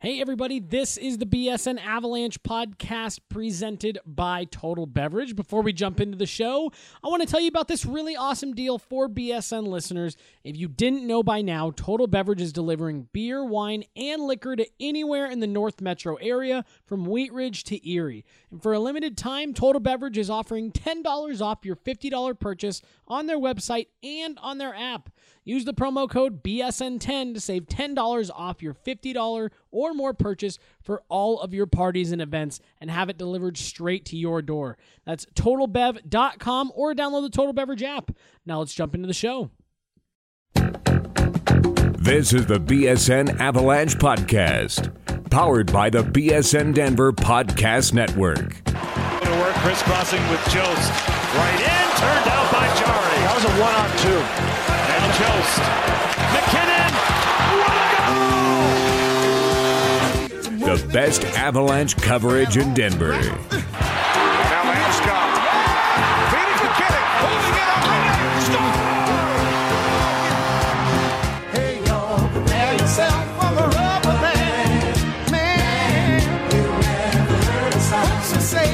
Hey everybody, this is the BSN Avalanche podcast presented by Total Beverage. Before we jump into the show, I want to tell you about this really awesome deal for BSN listeners. If you didn't know by now, Total Beverage is delivering beer, wine, and liquor to anywhere in the North Metro area from Wheat Ridge to Erie. And for a limited time, Total Beverage is offering $10 off your $50 purchase on their website and on their app. Use the promo code BSN10 to save $10 off your $50 or more purchase for all of your parties and events and have it delivered straight to your door. That's TotalBev.com or download the Total Beverage app. Now let's jump into the show. This is the BSN Avalanche Podcast, powered by the BSN Denver Podcast Network. To work, crisscrossing with Jost. Right in, turned out by Jari. That was a one-on-two. And Jost. McKinnon. What a goal! The best Avalanche coverage in Denver. Now Landeskog. Feeding McKinnon. Holding it up. Hey, y'all, prepare yourself for the rubber band. Man, you never heard a song to say.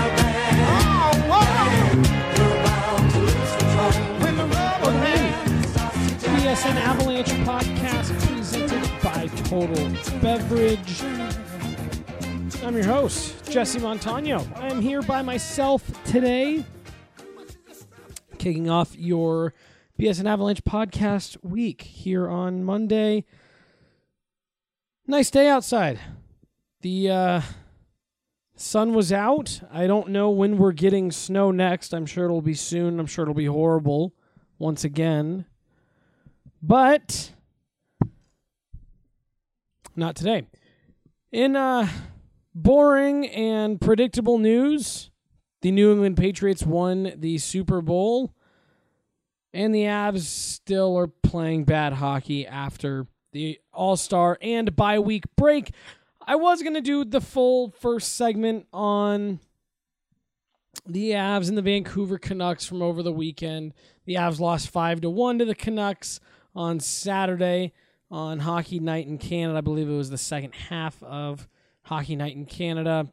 BSN Avalanche podcast presented by Total Beverage. I'm your host, Jesse Montano. I'm here by myself today, kicking off your BSN Avalanche podcast week here on Monday. Nice day outside. The sun was out. I don't know when we're getting snow next. I'm sure it'll be soon. I'm sure it'll be horrible once again. But not today. In boring and predictable news, the New England Patriots won the Super Bowl, and the Avs still are playing bad hockey after the All-Star and bye-week break. I was going to do the full first segment on the Avs and the Vancouver Canucks from over the weekend. The Avs lost 5-1 to the Canucks on Saturday on Hockey Night in Canada. I believe it was the second half of Hockey Night in Canada.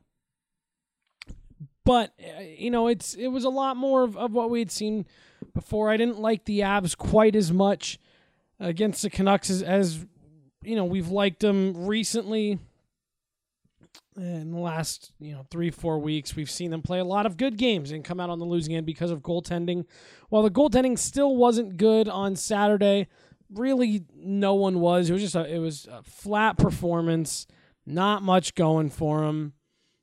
But, it was a lot more of what we had seen before. I didn't like the Avs quite as much against the Canucks as we've liked them recently. In the last 3-4 weeks, we've seen them play a lot of good games and come out on the losing end because of goaltending. While the goaltending still wasn't good on Saturday, really no one was. It was a flat performance, not much going for them.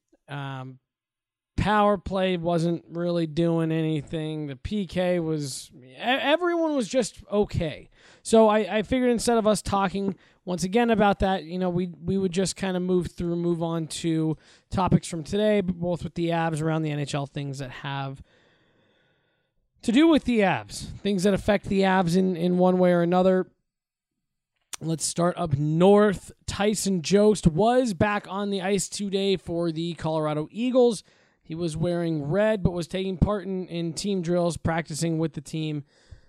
Power play wasn't really doing anything. The PK everyone was just okay. So I figured instead of us talking once again about that, we would just kind of move on to topics from today, both with the Avs around the NHL, things that have to do with the Avs, things that affect the Avs in one way or another. Let's start up north. Tyson Jost was back on the ice today for the Colorado Eagles. He was wearing red, but was taking part in team drills, practicing with the team.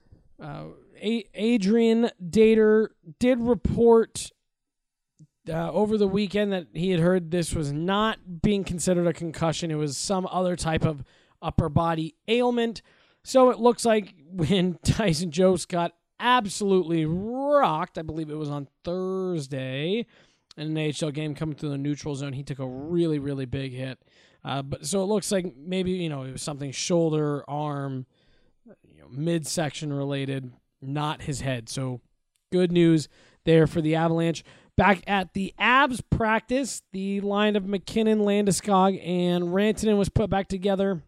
Adrian Dater did report over the weekend that he had heard this was not being considered a concussion. It was some other type of upper body ailment. So it looks like when Tyson Jost got absolutely rocked, I believe it was on Thursday, in an AHL game coming through the neutral zone, he took a really, really big hit. But so it looks like maybe, it was something shoulder, arm, midsection related, not his head. So good news there for the Avalanche. Back at the Avs practice, the line of McKinnon, Landeskog, and Rantanen was put back together.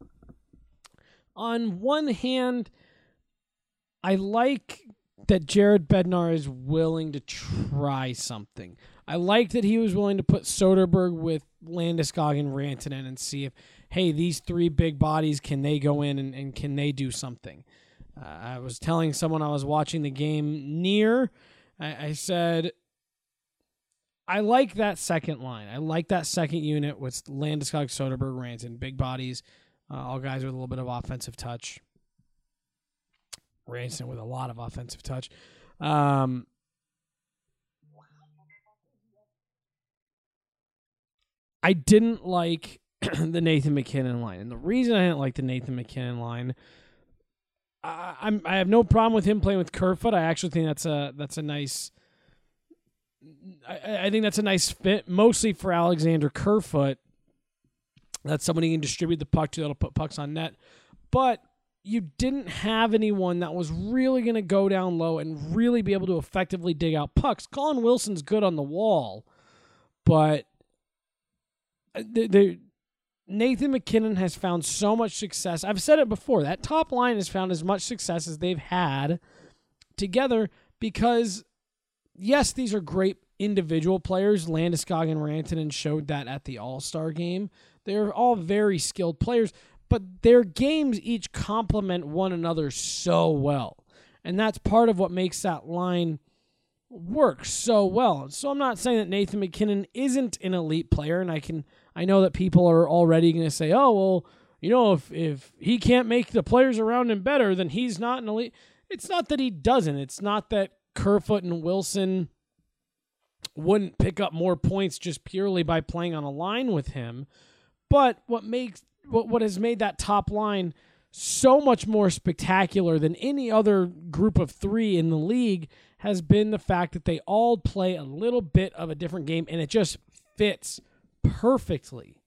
On one hand, I like that Jared Bednar is willing to try something. I like that he was willing to put Soderberg with Landeskog and Rantanen and see if, hey, these three big bodies, can they go in and can they do something? I was telling someone I was watching the game near, I said, I like that second line. I like that second unit with Landeskog, Soderberg, Rantanen, big bodies, all guys with a little bit of offensive touch. Rantanen with a lot of offensive touch. I didn't like the Nathan MacKinnon line. And the reason I didn't like the Nathan MacKinnon line, I have no problem with him playing with Kerfoot. I actually think that's a nice. I think that's a nice fit, mostly for Alexander Kerfoot. That's someone he can distribute the puck to that'll put pucks on net. But you didn't have anyone that was really going to go down low and really be able to effectively dig out pucks. Colin Wilson's good on the wall, but Nathan MacKinnon has found so much success. I've said it before. That top line has found as much success as they've had together because, yes, these are great individual players. Landeskog and Rantanen showed that at the All-Star game. They're all very skilled players, but their games each complement one another so well. And that's part of what makes that line work so well. So I'm not saying that Nathan MacKinnon isn't an elite player, and I know that people are already going to say, oh, well, you know, if he can't make the players around him better, then he's not an elite. It's not that he doesn't. It's not that Kerfoot and Wilson wouldn't pick up more points just purely by playing on a line with him. But what has made that top line so much more spectacular than any other group of three in the league has been the fact that they all play a little bit of a different game, and it just fits perfectly.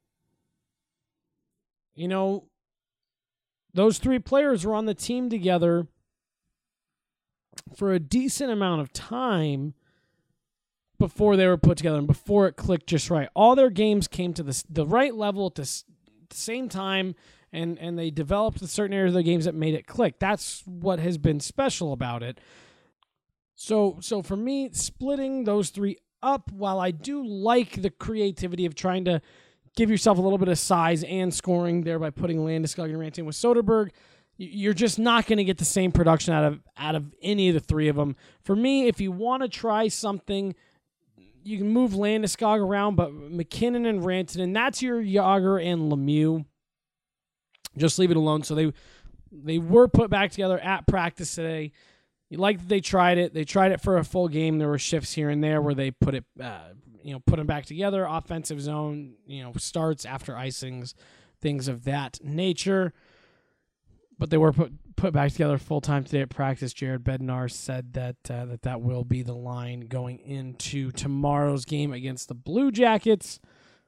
You know, those three players were on the team together for a decent amount of time before they were put together and before it clicked just right. All their games came to the right level at the same time, and they developed certain areas of their games that made it click. That's what has been special about it. So for me, splitting those three up, while I do like the creativity of trying to give yourself a little bit of size and scoring there by putting Landeskog and Rantanen with Soderberg, you're just not going to get the same production out of any of the three of them. For me, if you want to try something, you can move Landeskog around, but MacKinnon and Rantanen, that's your Jágr and Lemieux. Just leave it alone. So they were put back together at practice today. You like that they tried it. They tried it for a full game. There were shifts here and there where they put them back together. Offensive zone, starts after icings, things of that nature. But they were put back together full time today at practice. Jared Bednar said that will be the line going into tomorrow's game against the Blue Jackets.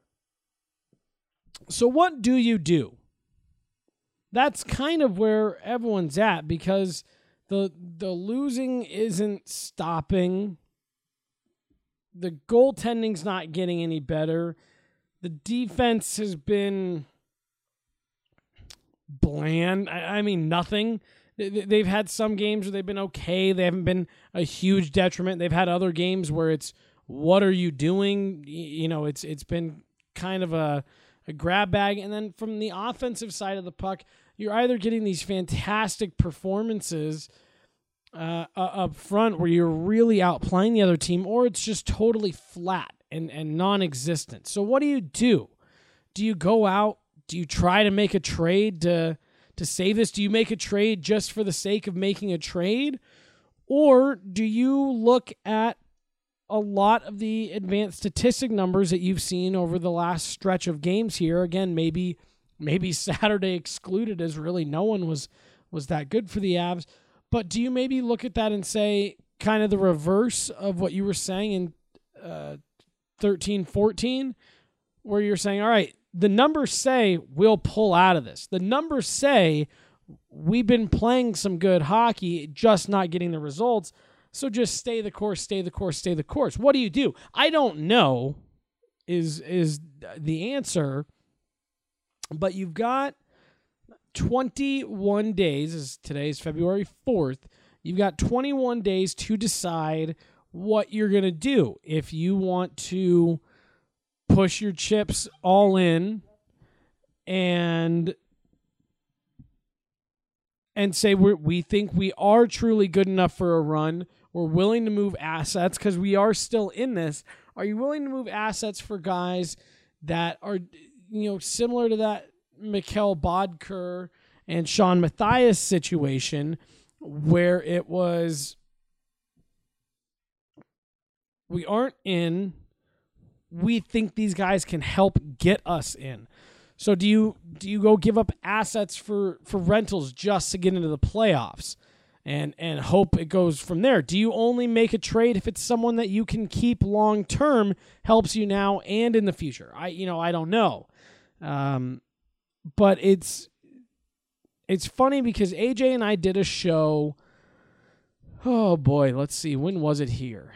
So what do you do? That's kind of where everyone's at because the losing isn't stopping. The goaltending's not getting any better. The defense has been bland. I mean, nothing. They've had some games where they've been okay. They haven't been a huge detriment. They've had other games where it's, what are you doing? It's been kind of a grab bag. And then from the offensive side of the puck, you're either getting these fantastic performances up front where you're really outplaying the other team, or it's just totally flat and non-existent. So what do? Do you go out? Do you try to make a trade to save this? Do you make a trade just for the sake of making a trade? Or do you look at a lot of the advanced statistic numbers that you've seen over the last stretch of games here? Again, maybe Saturday excluded, as really no one was that good for the Avs. But do you maybe look at that and say kind of the reverse of what you were saying in 13-14, where you're saying, all right, the numbers say we'll pull out of this. The numbers say we've been playing some good hockey, just not getting the results. So just stay the course, stay the course, stay the course. What do? I don't know is the answer. But you've got 21 days, as today's February 4th. You've got 21 days to decide what you're going to do. If you want to push your chips all in and say we think we are truly good enough for a run, we're willing to move assets because we are still in this. Are you willing to move assets for guys that are, similar to that Mikkel Bodker and Sean Matthias situation where it was, we aren't in, we think these guys can help get us in. So do you go give up assets for rentals just to get into the playoffs and hope it goes from there? Do you only make a trade if it's someone that you can keep long term, helps you now and in the future? I don't know. But it's funny because AJ and I did a show. Oh boy, let's see. When was it here?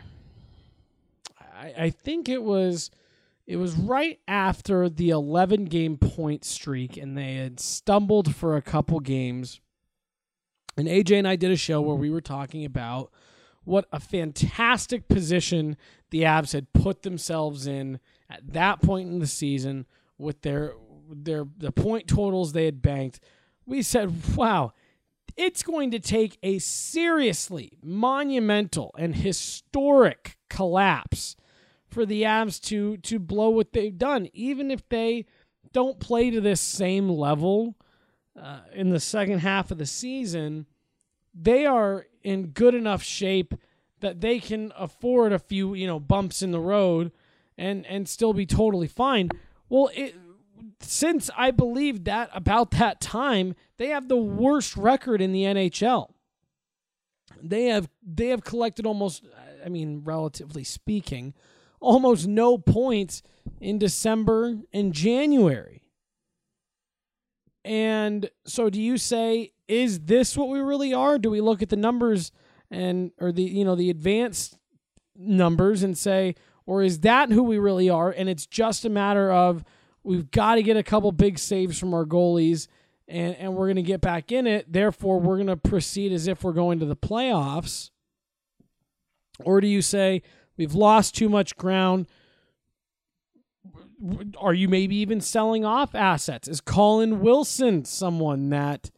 I think it was right after the 11-game point streak, and they had stumbled for a couple games. And AJ and I did a show where we were talking about what a fantastic position the Avs had put themselves in at that point in the season with the point totals they had banked. We said, wow, it's going to take a seriously monumental and historic collapse for the Avs to blow what they've done. Even if they don't play to this same level in the second half of the season, they are in good enough shape that they can afford a few, bumps in the road and still be totally fine. Well, since I believe that about that time, they have the worst record in the NHL. They have collected almost, relatively speaking, almost no points in December and January. And so do you say, is this what we really are? Do we look at the numbers or the advanced numbers and say, or is that who we really are? And it's just a matter of we've got to get a couple big saves from our goalies and we're going to get back in it. Therefore, we're going to proceed as if we're going to the playoffs. Or do you say we've lost too much ground? Are you maybe even selling off assets? Is Colin Wilson someone that,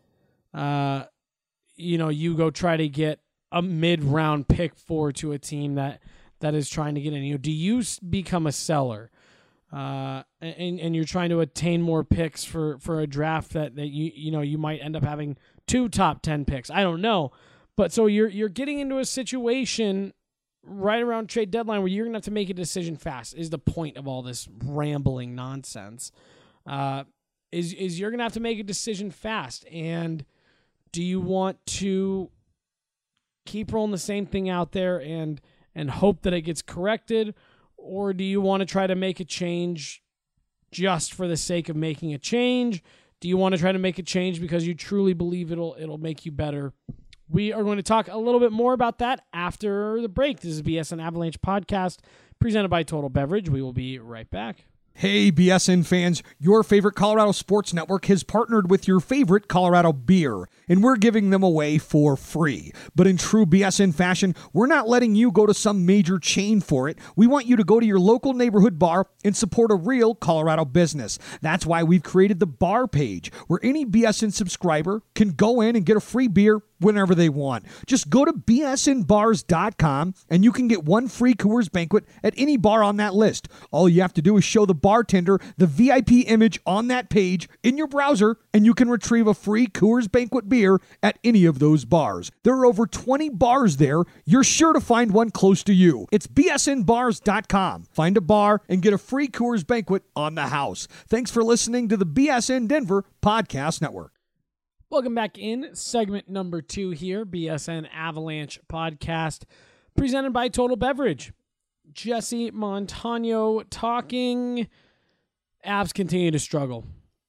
you go try to get a mid-round pick for to a team that is trying to get in? Do you become a seller? And you're trying to attain more picks for a draft that you might end up having 2 top 10 picks. I don't know. But so you're getting into a situation right around trade deadline where you're going to have to make a decision fast, is the point of all this rambling nonsense. Is you're going to have to make a decision fast. And do you want to keep rolling the same thing out there and hope that it gets corrected? Or do you want to try to make a change just for the sake of making a change? Do you want to try to make a change because you truly believe it'll make you better? We are going to talk a little bit more about that after the break. This is BSN Avalanche Podcast presented by Total Beverage. We will be right back. Hey, BSN fans, your favorite Colorado Sports Network has partnered with your favorite Colorado beer, and we're giving them away for free. But in true BSN fashion, we're not letting you go to some major chain for it. We want you to go to your local neighborhood bar and support a real Colorado business. That's why we've created the bar page, where any BSN subscriber can go in and get a free beer whenever they want. Just go to bsnbars.com and you can get 1 free Coors Banquet at any bar on that list. All you have to do is show the bartender the VIP image on that page in your browser and you can retrieve a free Coors Banquet beer at any of those bars. There are over 20 bars there. You're sure to find one close to you. It's bsnbars.com. Find a bar and get a free Coors Banquet on the house. Thanks for listening to the BSN Denver Podcast Network. Welcome back in segment number 2 here, BSN Avalanche Podcast, presented by Total Beverage. Jesse Montano talking. Avs continue to struggle.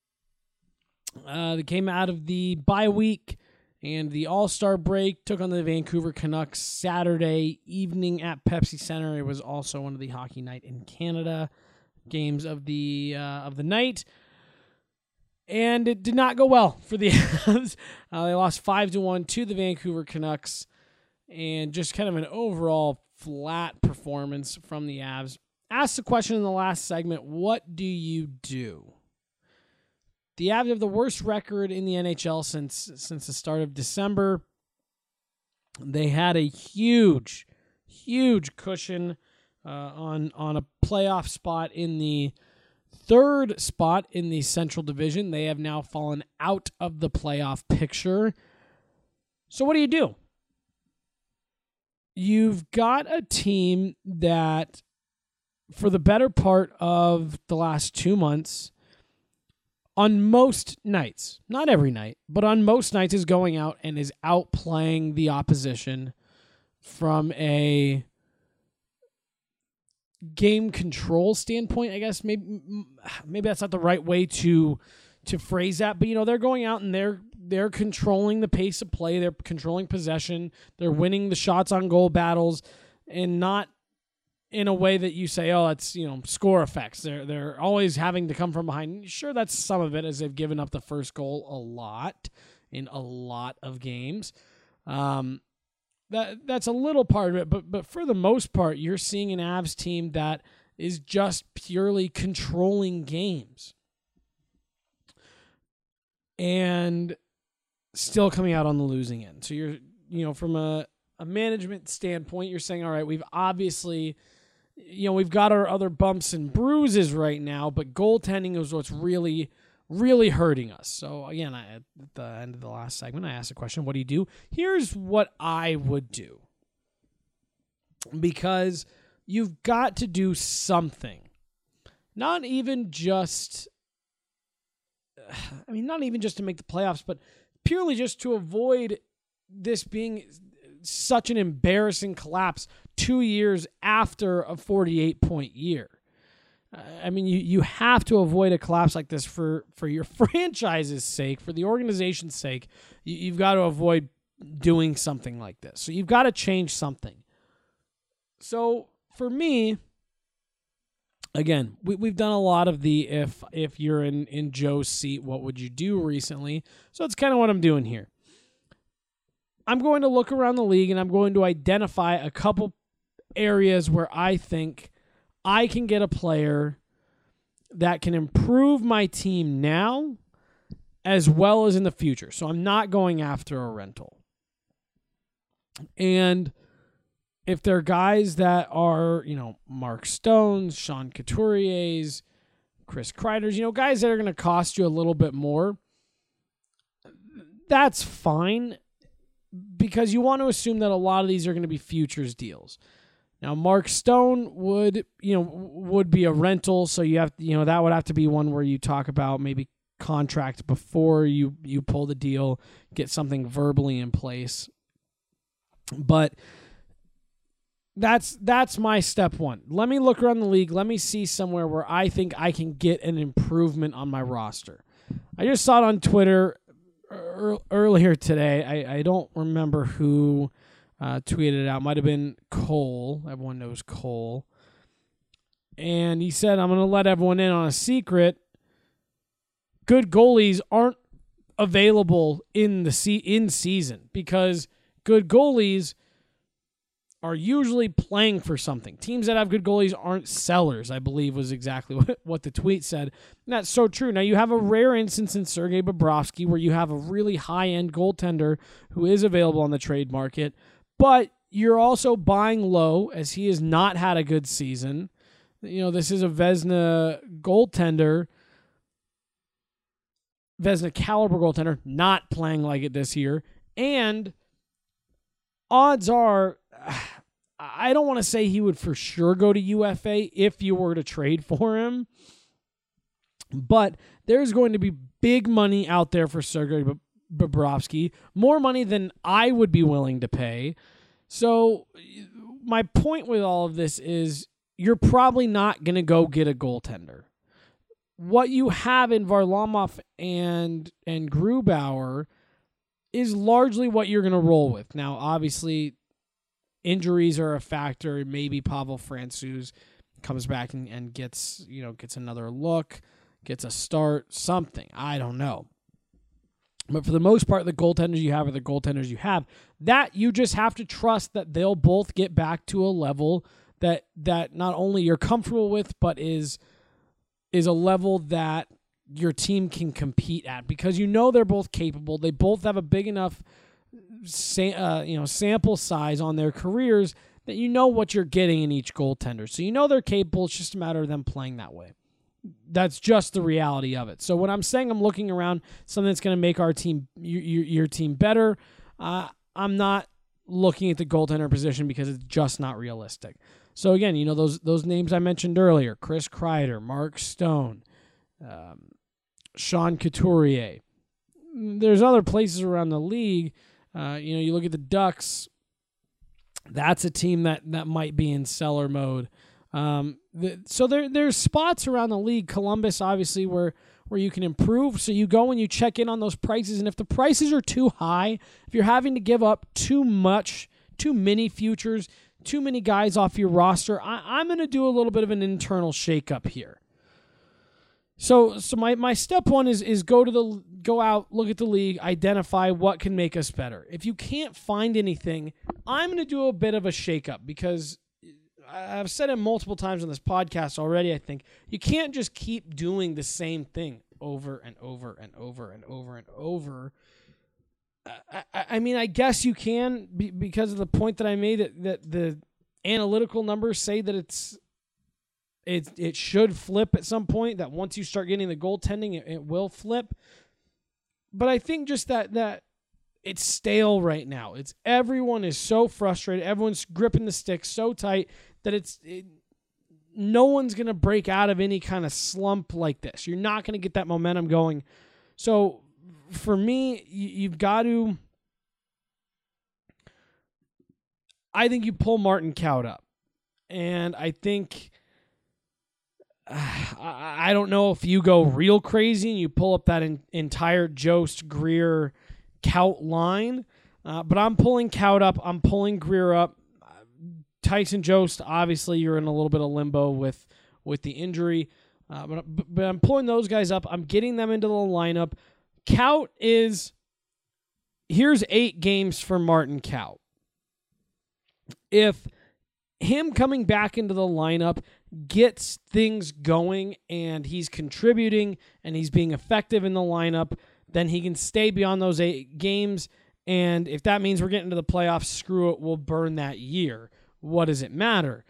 They came out of the bye week and the All-Star break, took on the Vancouver Canucks Saturday evening at Pepsi Center. It was also one of the Hockey Night in Canada games of the night. And it did not go well for the Avs. They lost 5-1 to the Vancouver Canucks, and just kind of an overall flat performance from the Avs. Asked the question in the last segment, what do you do? The Avs have the worst record in the NHL since the start of December. They had a huge cushion on a playoff spot in the 3rd spot in the Central Division. They have now fallen out of the playoff picture. So what do? You've got a team that for the better part of the last 2 months, on most nights, not every night, but on most nights is going out and is outplaying the opposition from a game control standpoint, I guess. Maybe that's not the right way to phrase that, but they're going out and they're controlling the pace of play, they're controlling possession, they're winning the shots on goal battles, and not in a way that you say, oh, it's score effects. They're always having to come from behind. Sure, that's some of it, as they've given up the first goal a lot in a lot of games. That's a little part of it, but for the most part, you're seeing an Avs team that is just purely controlling games and still coming out on the losing end. So you're, from a management standpoint, you're saying, all right, we've obviously, we've got our other bumps and bruises right now, but goaltending is what's really, really hurting us. So again, at the end of the last segment, I asked a question, what do you do? Here's what I would do. Because you've got to do something. Not even just to make the playoffs, but purely just to avoid this being such an embarrassing collapse 2 years after a 48-point year. You have to avoid a collapse like this for your franchise's sake, for the organization's sake. You've got to avoid doing something like this. So you've got to change something. So for me, again, we've done a lot of the if you're in Joe's seat, what would you do recently? So it's kind of what I'm doing here. I'm going to look around the league and I'm going to identify a couple areas where I think I can get a player that can improve my team now as well as in the future. So I'm not going after a rental. And if they're guys that are, Mark Stones, Sean Couturier's, Chris Kreider's, guys that are going to cost you a little bit more, that's fine, because you want to assume that a lot of these are going to be futures deals. Now, Mark Stone would be a rental, so you have, that would have to be one where you talk about maybe contract before you pull the deal, get something verbally in place. But that's my step one. Let me look around the league. Let me see somewhere where I think I can get an improvement on my roster. I just saw it on Twitter earlier today. I don't remember who tweeted it out. Might have been Cole. Everyone knows Cole. And he said, I'm going to let everyone in on a secret. Good goalies aren't available in season because good goalies are usually playing for something. Teams that have good goalies aren't sellers, I believe was exactly what the tweet said. And that's so true. Now, you have a rare instance in Sergei Bobrovsky where you have a really high-end goaltender who is available on the trade market, but you're also buying low as he has not had a good season. This is a Vezina goaltender, Vezina caliber goaltender, not playing like it this year. And odds are, I don't want to say he would for sure go to UFA if you were to trade for him, but there's going to be big money out there for Sergei Bobrovsky, more money than I would be willing to pay. So my point with all of this is you're probably not going to go get a goaltender. What you have in Varlamov and Grubauer is largely what you're going to roll with. Now, obviously, injuries are a factor. Maybe Pavel Francouz comes back and gets another look, gets a start, something. I don't know. But for the most part, the goaltenders you have are the goaltenders you have. That you just have to trust that they'll both get back to a level that not only you're comfortable with, but is a level that your team can compete at, because they're both capable. They both have a big enough sample size on their careers that what you're getting in each goaltender. So they're capable. It's just a matter of them playing that way. That's just the reality of it. So when I'm saying I'm looking around something that's going to make our team, your team better, I'm not looking at the goaltender position because it's just not realistic. So again, those names I mentioned earlier: Chris Kreider, Mark Stone, Sean Couturier. There's other places around the league. You look at the Ducks. That's a team that might be in seller mode. So there's spots around the league. Columbus, obviously, where you can improve. So you go and you check in on those prices, and if the prices are too high, if you're having to give up too many futures, too many guys off your roster, I'm going to do a little bit of an internal shakeup here. So my step one is go out, look at the league, identify what can make us better. If you can't find anything, I'm going to do a bit of a shakeup, because I've said it multiple times on this podcast already. I think you can't just keep doing the same thing over and over and over and over and over. I guess you can, because of the point that I made, that the analytical numbers say that it should flip at some point, that once you start getting the goaltending, it will flip. But I think just that it's stale right now. Everyone is so frustrated. Everyone's gripping the stick so tight that no one's going to break out of any kind of slump like this. You're not going to get that momentum going. So for me, you've got to, I think you pull Martin Kaut up. And I think, I don't know if you go real crazy and you pull up that entire Jost, Greer, Kaut line, but I'm pulling Kaut up. I'm pulling Greer up. Tyson Jost, obviously, you're in a little bit of limbo with the injury, but I'm pulling those guys up. I'm getting them into the lineup. Kaut here's 8 games for Martin Kaut. If him coming back into the lineup gets things going and he's contributing and he's being effective in the lineup, then he can stay beyond those 8 games. And if that means we're getting to the playoffs, screw it, we'll burn that year. What does it matter?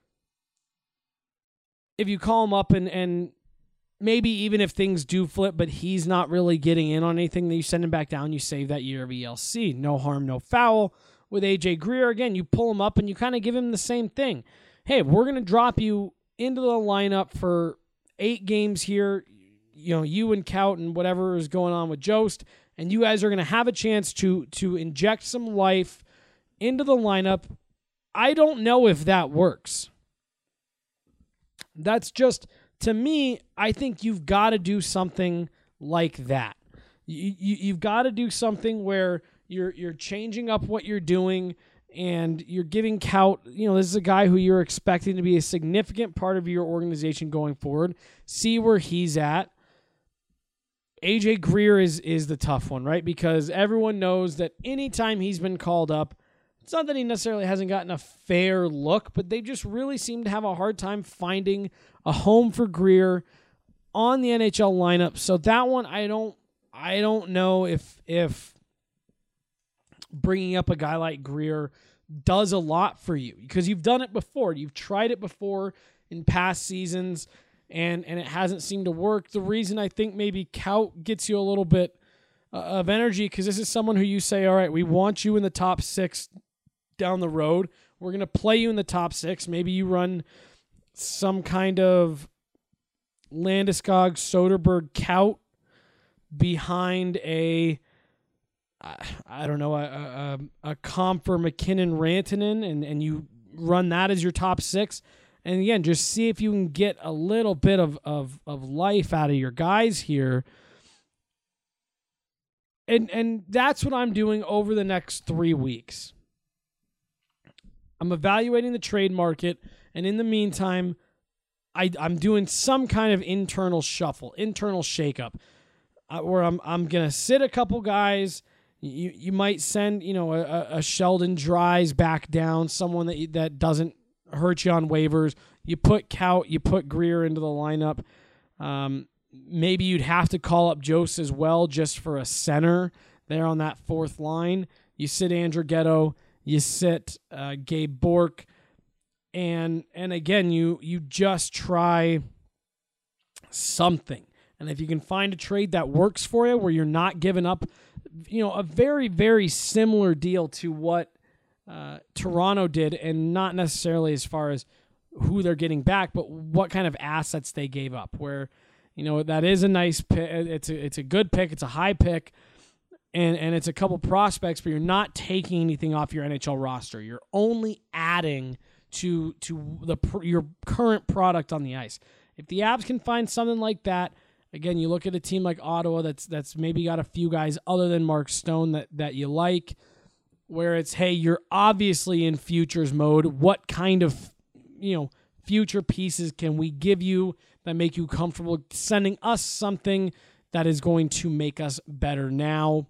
If you call him up and maybe even if things do flip, but he's not really getting in on anything, then you send him back down, you save that year of ELC. No harm, no foul. With AJ Greer, again, you pull him up and you kind of give him the same thing. Hey, we're going to drop you into the lineup for 8 games here, you and Kaut and whatever is going on with Jost, and you guys are going to have a chance to inject some life into the lineup. I don't know if that works. That's just, to me, I think you've got to do something like that. You've got to do something where you're changing up what you're doing, and you're giving Kaut, this is a guy who you're expecting to be a significant part of your organization going forward. See where he's at. AJ Greer is the tough one, right? Because everyone knows that anytime he's been called up, it's not that he necessarily hasn't gotten a fair look, but they just really seem to have a hard time finding a home for Greer on the NHL lineup. So that one, I don't know if bringing up a guy like Greer does a lot for you, because you've done it before. You've tried it before in past seasons, and it hasn't seemed to work. The reason I think maybe Kaut gets you a little bit of energy, because this is someone who you say, all right, we want you in the top 6 down the road. We're going to play you in the top 6. Maybe you run some kind of Landeskog, Soderberg, Kaut behind a Comfer, McKinnon, Rantanen, and you run that as your top 6. And again, just see if you can get a little bit of life out of your guys here. And that's what I'm doing over the next 3 weeks. I'm evaluating the trade market, and in the meantime, I'm doing some kind of internal shuffle, internal shakeup, where I'm going to sit a couple guys. You might send a Sheldon Dries back down, someone that doesn't hurt you on waivers. You put Kaut, you put Greer into the lineup. Maybe you'd have to call up Jost as well, just for a center there on that 4th line. You sit Andrew Ghetto, you sit Gabe Bork, and again you just try something. And if you can find a trade that works for you, where you're not giving up, a very, very similar deal to what Toronto did, and not necessarily as far as who they're getting back, but what kind of assets they gave up. Where, that is a nice pick. It's a good pick. It's a high pick, and it's a couple prospects, but you're not taking anything off your NHL roster. You're only adding to your current product on the ice. If the Avs can find something like that, again, you look at a team like Ottawa that's maybe got a few guys other than Mark Stone that you like, where it's, hey, you're obviously in futures mode. What kind of future pieces can we give you that make you comfortable sending us something that is going to make us better now?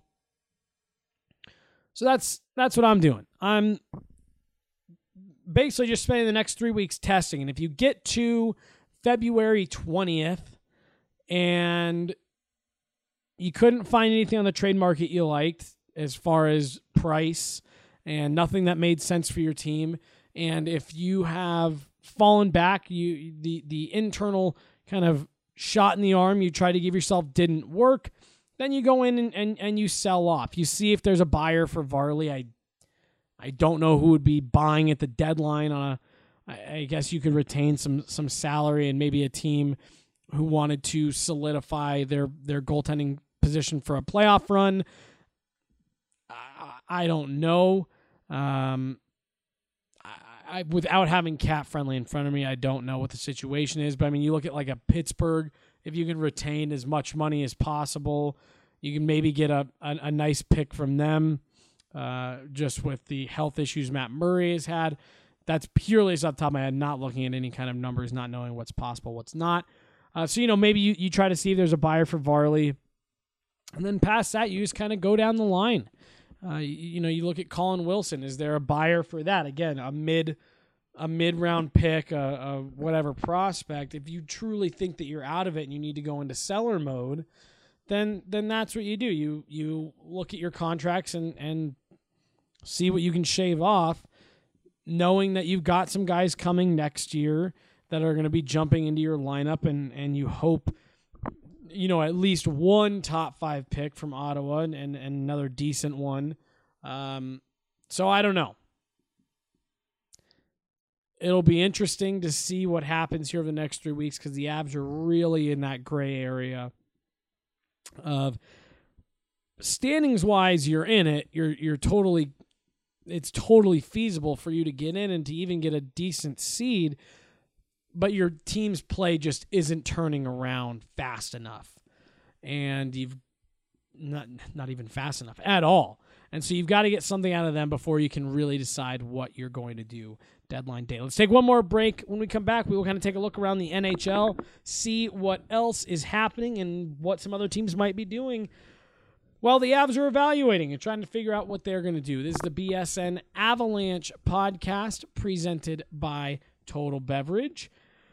So that's what I'm doing. I'm basically just spending the next 3 weeks testing. And if you get to February 20th and you couldn't find anything on the trade market you liked as far as price and nothing that made sense for your team, and if you have fallen back, the internal kind of shot in the arm you tried to give yourself didn't work, then you go in and you sell off. You see if there's a buyer for Varley. I don't know who would be buying at the deadline. I guess you could retain some salary and maybe a team who wanted to solidify their goaltending position for a playoff run. I don't know. Without having Cap Friendly in front of me, I don't know what the situation is. But, you look at like a Pittsburgh, if you can retain as much money as possible, you can maybe get a nice pick from them, just with the health issues Matt Murray has had. That's purely off the top of my head, not looking at any kind of numbers, not knowing what's possible, what's not. So, maybe you try to see if there's a buyer for Varley. And then past that, you just kind of go down the line. You look at Colin Wilson. Is there a buyer for that? Again, a mid-round pick, a whatever prospect. If you truly think that you're out of it and you need to go into seller mode, then that's what you do. You look at your contracts and see what you can shave off, knowing that you've got some guys coming next year that are going to be jumping into your lineup, and you hope at least one top 5 pick from Ottawa and another decent one. So I don't know. It'll be interesting to see what happens here over the next 3 weeks, because the Avs are really in that gray area of standings wise. You're in it. It's totally feasible for you to get in and to even get a decent seed, but your team's play just isn't turning around fast enough. And you've not even fast enough at all. And so you've got to get something out of them before you can really decide what you're going to do deadline day. Let's take one more break. When we come back, we will kind of take a look around the NHL, see what else is happening and what some other teams might be doing while the Avs are evaluating and trying to figure out what they're going to do. This is the BSN Avalanche podcast presented by Total Beverage.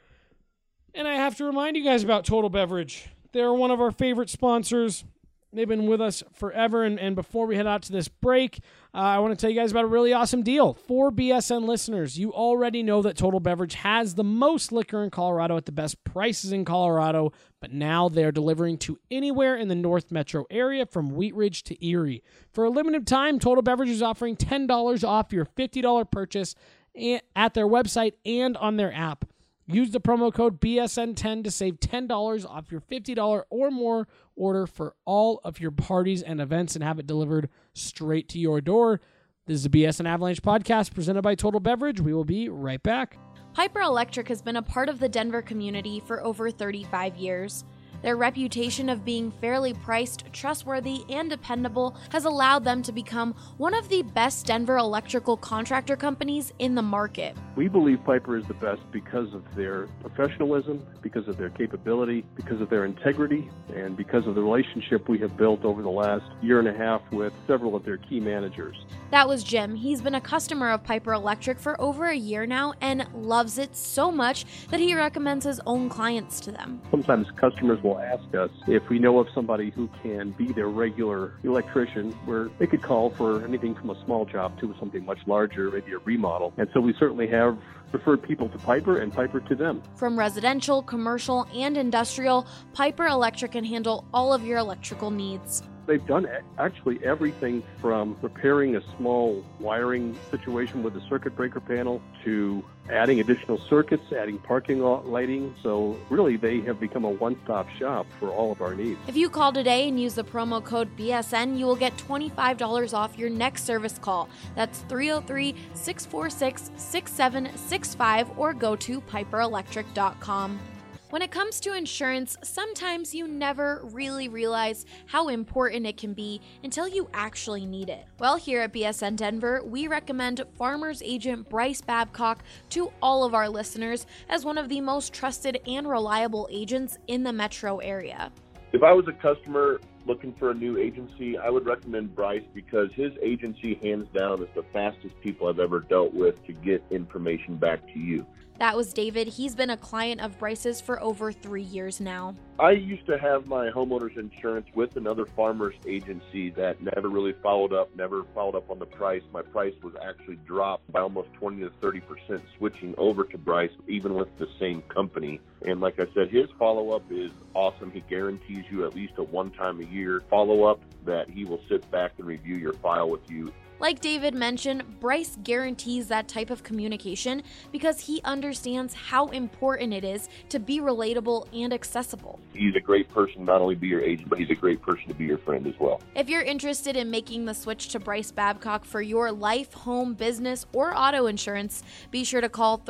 And I have to remind you guys about Total Beverage. They're one of our favorite sponsors. They've been with us forever. And before we head out to this break, I want to tell you guys about a really awesome deal. For BSN listeners, you already know that Total Beverage has the most liquor in Colorado at the best prices in Colorado, but now they're delivering to anywhere in the North Metro area from Wheat Ridge to Erie. For a limited time, Total Beverage is offering $10 off your $50 purchase at their website and on their app. Use the promo code BSN10 to save $10 off your $50 or more order for all of your parties and events and have it delivered straight to your door. This is the BSN Avalanche podcast presented by Total Beverage. We will be right back. Piper Electric has been a part of the Denver community for over 35 years. Their reputation of being fairly priced, trustworthy, and dependable has allowed them to become one of the best Denver electrical contractor companies in the market. We believe Piper is the best because of their professionalism, because of their capability, because of their integrity, and because of the relationship we have built over the last year and a half with several of their key managers. That was Jim. He's been a customer of Piper Electric for over a year now and loves it so much that he recommends his own clients to them. Sometimes customers will ask us if we know of somebody who can be their regular electrician, where they could call for anything from a small job to something much larger, maybe a remodel. And so we certainly have referred people to Piper and Piper to them. From residential, commercial, and industrial, Piper Electric can handle all of your electrical needs. They've done actually everything from repairing a small wiring situation with the circuit breaker panel to adding additional circuits, adding parking lot lighting. So really, they have become a one-stop shop for all of our needs. If you call today and use the promo code BSN, you will get $25 off your next service call. That's 303-646-6765 or go to piperelectric.com. When it comes to insurance, sometimes you never really realize how important it can be until you actually need it. Well, here at BSN Denver, we recommend Farmers Agent Bryce Babcock to all of our listeners as one of the most trusted and reliable agents in the metro area. If I was a customer looking for a new agency, I would recommend Bryce because his agency, hands down, is the fastest people I've ever dealt with to get information back to you. That was David. He's been a client of Bryce's for over 3 years now. I used to have my homeowner's insurance with another farmer's agency that never really followed up on the price. My price was actually dropped by almost 20 to 30% switching over to Bryce, even with the same company. And like I said, his follow-up is awesome. He guarantees you at least a one-time-a-year follow-up that he will sit back and review your file with you. Like David mentioned, Bryce guarantees that type of communication because he understands how important it is to be relatable and accessible. He's a great person, not only be your agent, but he's a great person to be your friend as well. If you're interested in making the switch to Bryce Babcock for your life, home, business, or auto insurance, be sure to call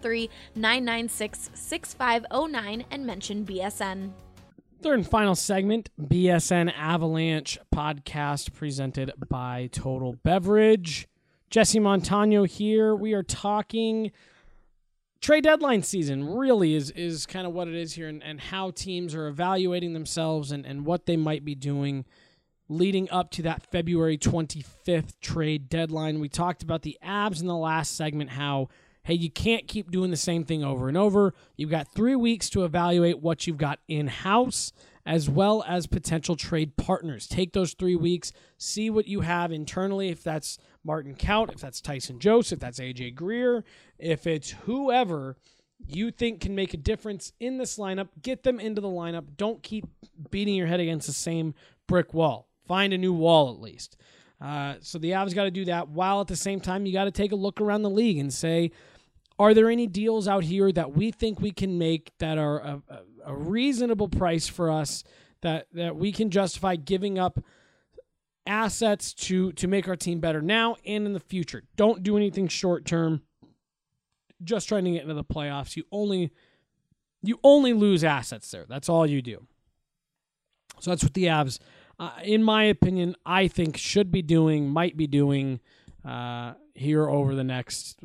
303-996-6509 and mention BSN. Third and final segment, BSN Avalanche podcast presented by Total Beverage. Jesse Montano here. We are talking trade deadline season, really is kind of what it is here, and how teams are evaluating themselves and what they might be doing leading up to that February 25th trade deadline. We talked about the Avs in the last segment, how hey, you can't keep doing the same thing over and over. You've got 3 weeks to evaluate what you've got in-house as well as potential trade partners. Take those 3 weeks, see what you have internally, if that's Martin Kaut, if that's Tyson Jost, if that's AJ Greer, if it's whoever you think can make a difference in this lineup, get them into the lineup. Don't keep beating your head against the same brick wall. Find a new wall at least. So the Avs got to do that, while at the same time you got to take a look around the league and say, are there any deals out here that we think we can make that are a reasonable price for us, that we can justify giving up assets to make our team better now and in the future? Don't do anything short term. Just trying to get into the playoffs. You only lose assets there. That's all you do. So that's what the Avs, in my opinion, I think might be doing here over the next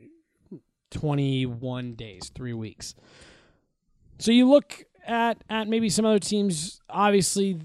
21 days, 3 weeks. So you look at maybe some other teams. Obviously,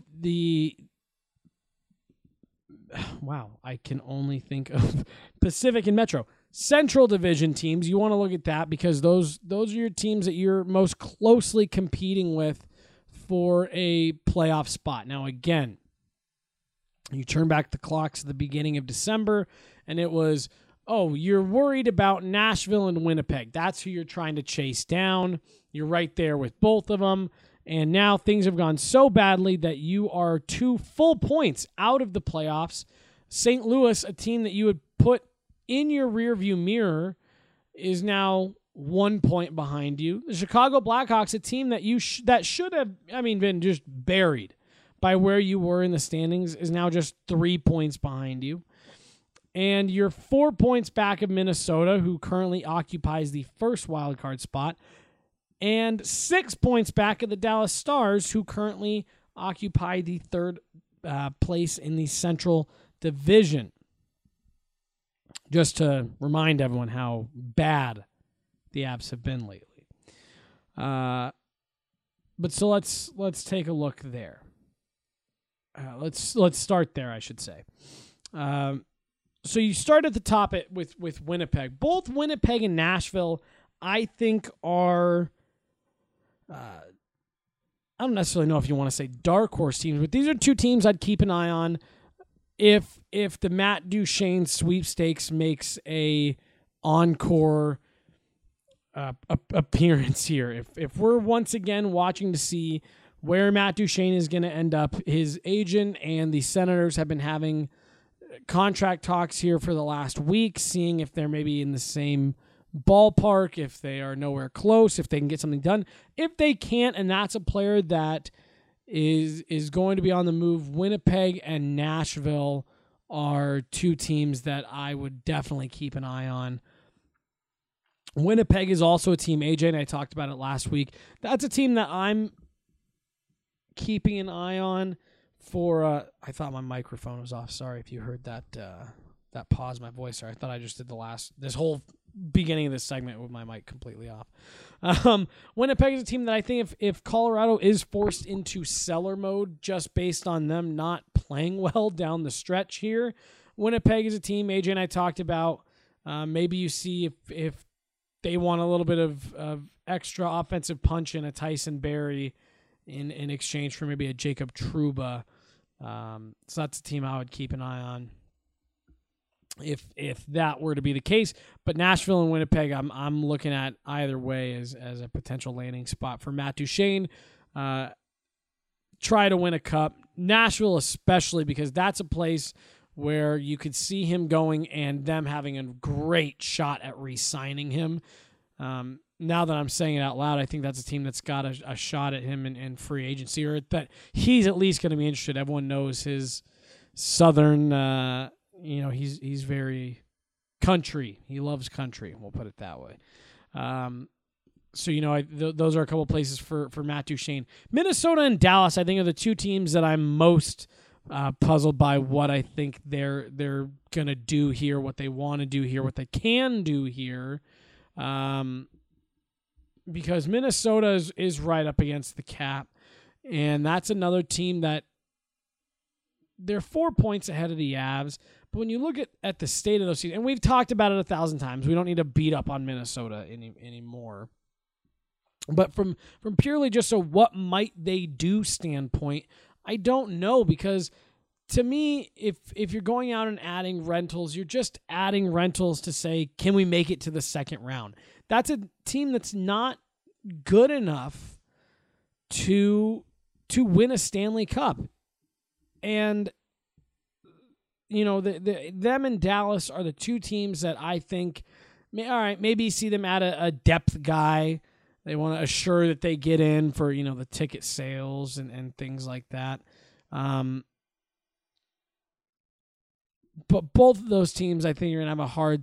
I can only think of Pacific and Metro. Central Division teams, you want to look at that because those are your teams that you're most closely competing with for a playoff spot. Now, again, you turn back the clocks at the beginning of December, and it was, you're worried about Nashville and Winnipeg. That's who you're trying to chase down. You're right there with both of them. And now things have gone so badly that you are 2 full points out of the playoffs. St. Louis, a team that you would put in your rearview mirror, is now 1 point behind you. The Chicago Blackhawks, a team that that should have, been just buried by where you were in the standings, is now just 3 points behind you. And you're 4 points back of Minnesota, who currently occupies the first wildcard spot, and 6 points back of the Dallas Stars, who currently occupy the third place in the Central Division. Just to remind everyone how bad the Avs have been lately. But so let's take a look there. Let's start there, I should say. So you start at the top with Winnipeg. Both Winnipeg and Nashville, I think, are I don't necessarily know if you want to say dark horse teams, but these are 2 teams I'd keep an eye on if the Matt Duchene sweepstakes makes a encore appearance here. If we're once again watching to see where Matt Duchene is going to end up. His agent and the Senators have been having contract talks here for the last week, seeing if they're maybe in the same ballpark, if they are nowhere close, if they can get something done. If they can't, and that's a player that is going to be on the move, Winnipeg and Nashville are two teams that I would definitely keep an eye on. Winnipeg is also a team, AJ and I talked about it last week. That's a team that I'm keeping an eye on for, I thought my microphone was off. Sorry if you heard that pause, my voice. Sorry, I thought I just did this whole beginning of this segment with my mic completely off. Winnipeg is a team that I think if Colorado is forced into seller mode just based on them not playing well down the stretch here, Winnipeg is a team AJ and I talked about. Maybe you see if they want a little bit of extra offensive punch in a Tyson Barrie in exchange for maybe a Jacob Trouba. So that's a team I would keep an eye on if that were to be the case. But Nashville and Winnipeg, I'm looking at either way as a potential landing spot for Matt Duchene. Try to win a cup. Nashville especially, because that's a place where you could see him going and them having a great shot at re-signing him. Now that I'm saying it out loud, I think that's a team that's got a shot at him in free agency, or that he's at least going to be interested. Everyone knows his Southern, he's very country. He loves country. We'll put it that way. Those are a couple places for Matt Duchene. Minnesota and Dallas, I think, are the two teams that I'm most puzzled by what I think they're going to do here, what they want to do here, what they can do here. Because Minnesota is right up against the cap, and that's another team that they're 4 points ahead of the Avs. But when you look at the state of those teams, and we've talked about it 1,000 times, we don't need to beat up on Minnesota anymore. But from purely just a what might they do standpoint, I don't know, because to me, if you're going out and adding rentals, you're just adding rentals to say, can we make it to the second round? That's a team that's not good enough to win a Stanley Cup. And, them and Dallas are the two teams that I think, all right, maybe see them add a depth guy. They want to assure that they get in for, the ticket sales and things like that. But both of those teams, I think, you're going to have a hard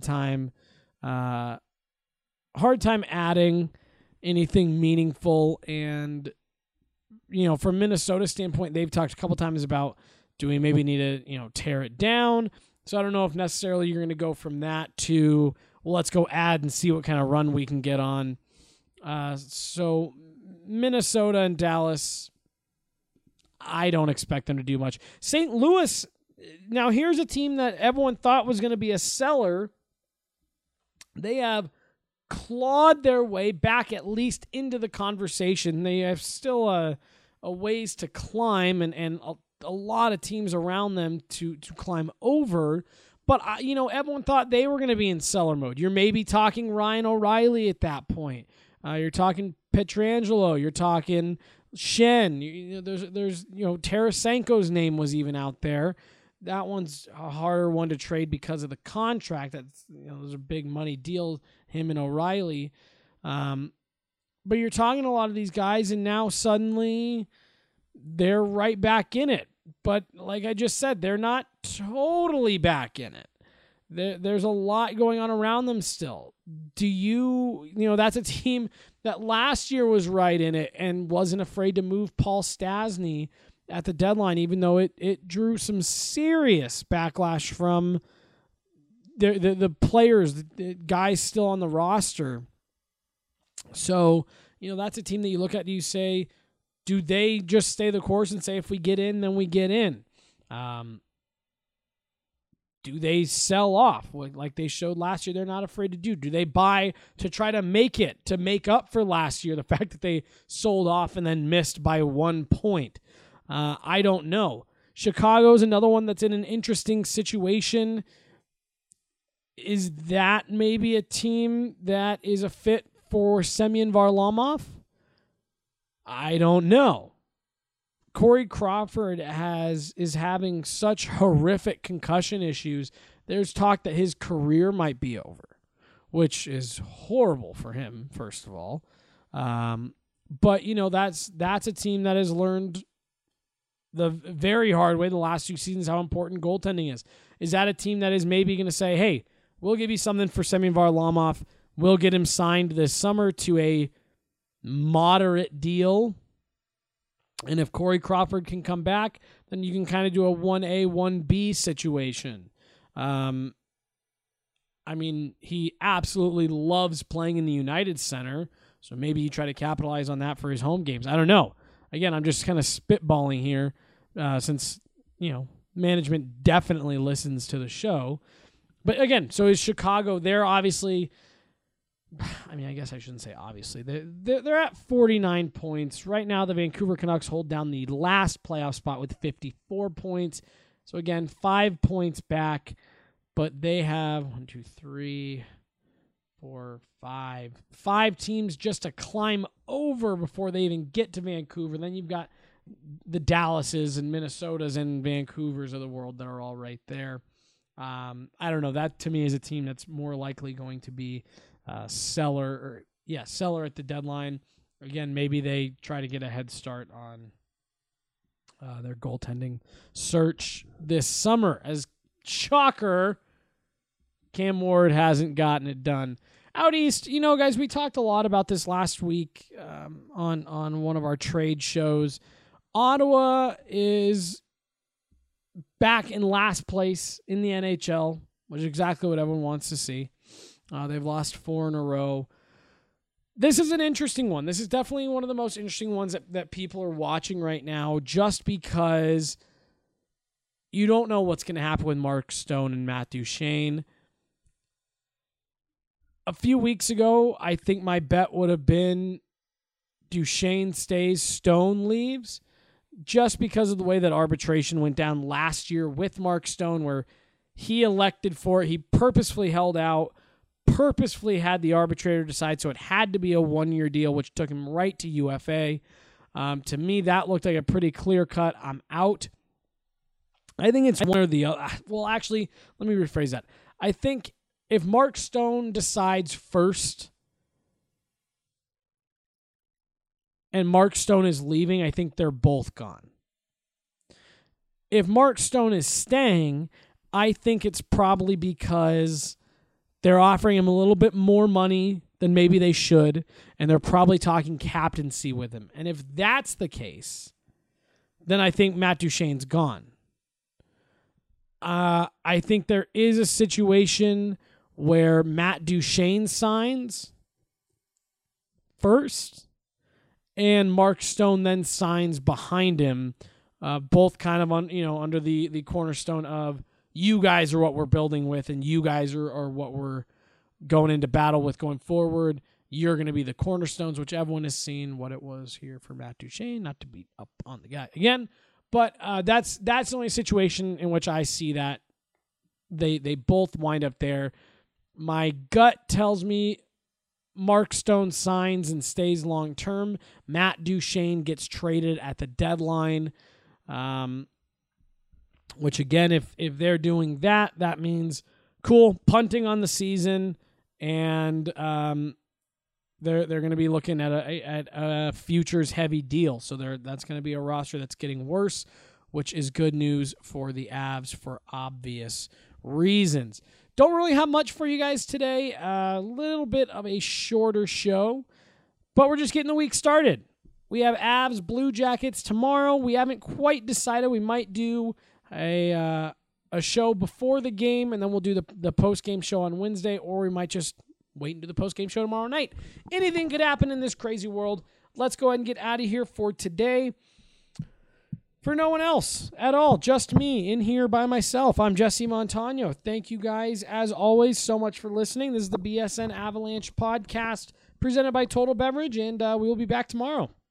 time adding anything meaningful. And, from Minnesota's standpoint, they've talked a couple times about, do we maybe need to, tear it down? So I don't know if necessarily you're going to go from that to, well, let's go add and see what kind of run we can get on. So Minnesota and Dallas, I don't expect them to do much. St. Louis, now here's a team that everyone thought was going to be a seller. They have clawed their way back at least into the conversation. They have still a ways to climb and a lot of teams around them to climb over. But, everyone thought they were going to be in seller mode. You're maybe talking Ryan O'Reilly at that point. You're talking Pietrangelo. You're talking Shen. There's Tarasenko's name was even out there. That one's a harder one to trade because of the contract. That's there's a big money deal, him and O'Reilly. But you're talking to a lot of these guys, and now suddenly they're right back in it. But like I just said, they're not totally back in it. There's a lot going on around them still. That's a team that last year was right in it and wasn't afraid to move Paul Stastny at the deadline, even though it drew some serious backlash from the players, the guys still on the roster. So, that's a team that you look at and you say, do they just stay the course and say, if we get in, then we get in? Do they sell off like they showed last year? They're not afraid to do. Do they buy to try to make up for last year, the fact that they sold off and then missed by 1 point? I don't know. Chicago's another one that's in an interesting situation. Is that maybe a team that is a fit for Semyon Varlamov? I don't know. Corey Crawford is having such horrific concussion issues, there's talk that his career might be over, which is horrible for him, first of all. But, that's a team that has learned the very hard way the last 2 seasons how important goaltending is. Is that a team that is maybe going to say, hey, we'll give you something for Semyon Varlamov. We'll get him signed this summer to a moderate deal. And if Corey Crawford can come back, then you can kind of do a 1A, 1B situation. He absolutely loves playing in the United Center, so maybe you try to capitalize on that for his home games. I don't know. Again, I'm just kind of spitballing here since, management definitely listens to the show. But again, so is Chicago. They're obviously, I guess I shouldn't say obviously. They're at 49 points. Right now, the Vancouver Canucks hold down the last playoff spot with 54 points. So again, 5 points back. But they have 5 teams just to climb over before they even get to Vancouver. Then you've got the Dallases and Minnesotas and Vancouvers of the world that are all right there. I don't know. That to me is a team that's more likely going to be seller at the deadline. Again, maybe they try to get a head start on their goaltending search this summer. As shocker, Cam Ward hasn't gotten it done. Out east, guys, we talked a lot about this last week on one of our trade shows. Ottawa is back in last place in the NHL, which is exactly what everyone wants to see. They've lost 4 in a row. This is an interesting one. This is definitely one of the most interesting ones that people are watching right now, just because you don't know what's going to happen with Mark Stone and Matt Duchene. A few weeks ago, I think my bet would have been Duchene stays, Stone leaves, just because of the way that arbitration went down last year with Mark Stone, where he elected for it. He purposefully held out, purposefully had the arbitrator decide, so it had to be a 1-year deal, which took him right to UFA. To me, that looked like a pretty clear cut. I'm out. I think it's one or the other. Well, actually, let me rephrase that. I think if Mark Stone decides first and Mark Stone is leaving, I think they're both gone. If Mark Stone is staying, I think it's probably because they're offering him a little bit more money than maybe they should, and they're probably talking captaincy with him. And if that's the case, then I think Matt Duchene's gone. I think there is a situation where Matt Duchene signs first, and Mark Stone then signs behind him, both kind of under the cornerstone of you guys are what we're building with, and you guys are what we're going into battle with going forward. You're going to be the cornerstones, which everyone has seen what it was here for Matt Duchene, not to beat up on the guy again. But that's the only situation in which I see that they both wind up there. My gut tells me Mark Stone signs and stays long term. Matt Duchene gets traded at the deadline, which again, if they're doing that, that means cool punting on the season, and they're going to be looking at a futures heavy deal. So that's going to be a roster that's getting worse, which is good news for the Avs for obvious reasons. Don't really have much for you guys today. A little bit of a shorter show, but we're just getting the week started. We have Avs Blue Jackets tomorrow. We haven't quite decided. We might do a show before the game, and then we'll do the post-game show on Wednesday, or we might just wait and do the post-game show tomorrow night. Anything could happen in this crazy world. Let's go ahead and get out of here for today. For no one else at all, just me in here by myself, I'm Jesse Montano. Thank you guys, as always, so much for listening. This is the BSN Avalanche podcast presented by Total Beverage, and we will be back tomorrow.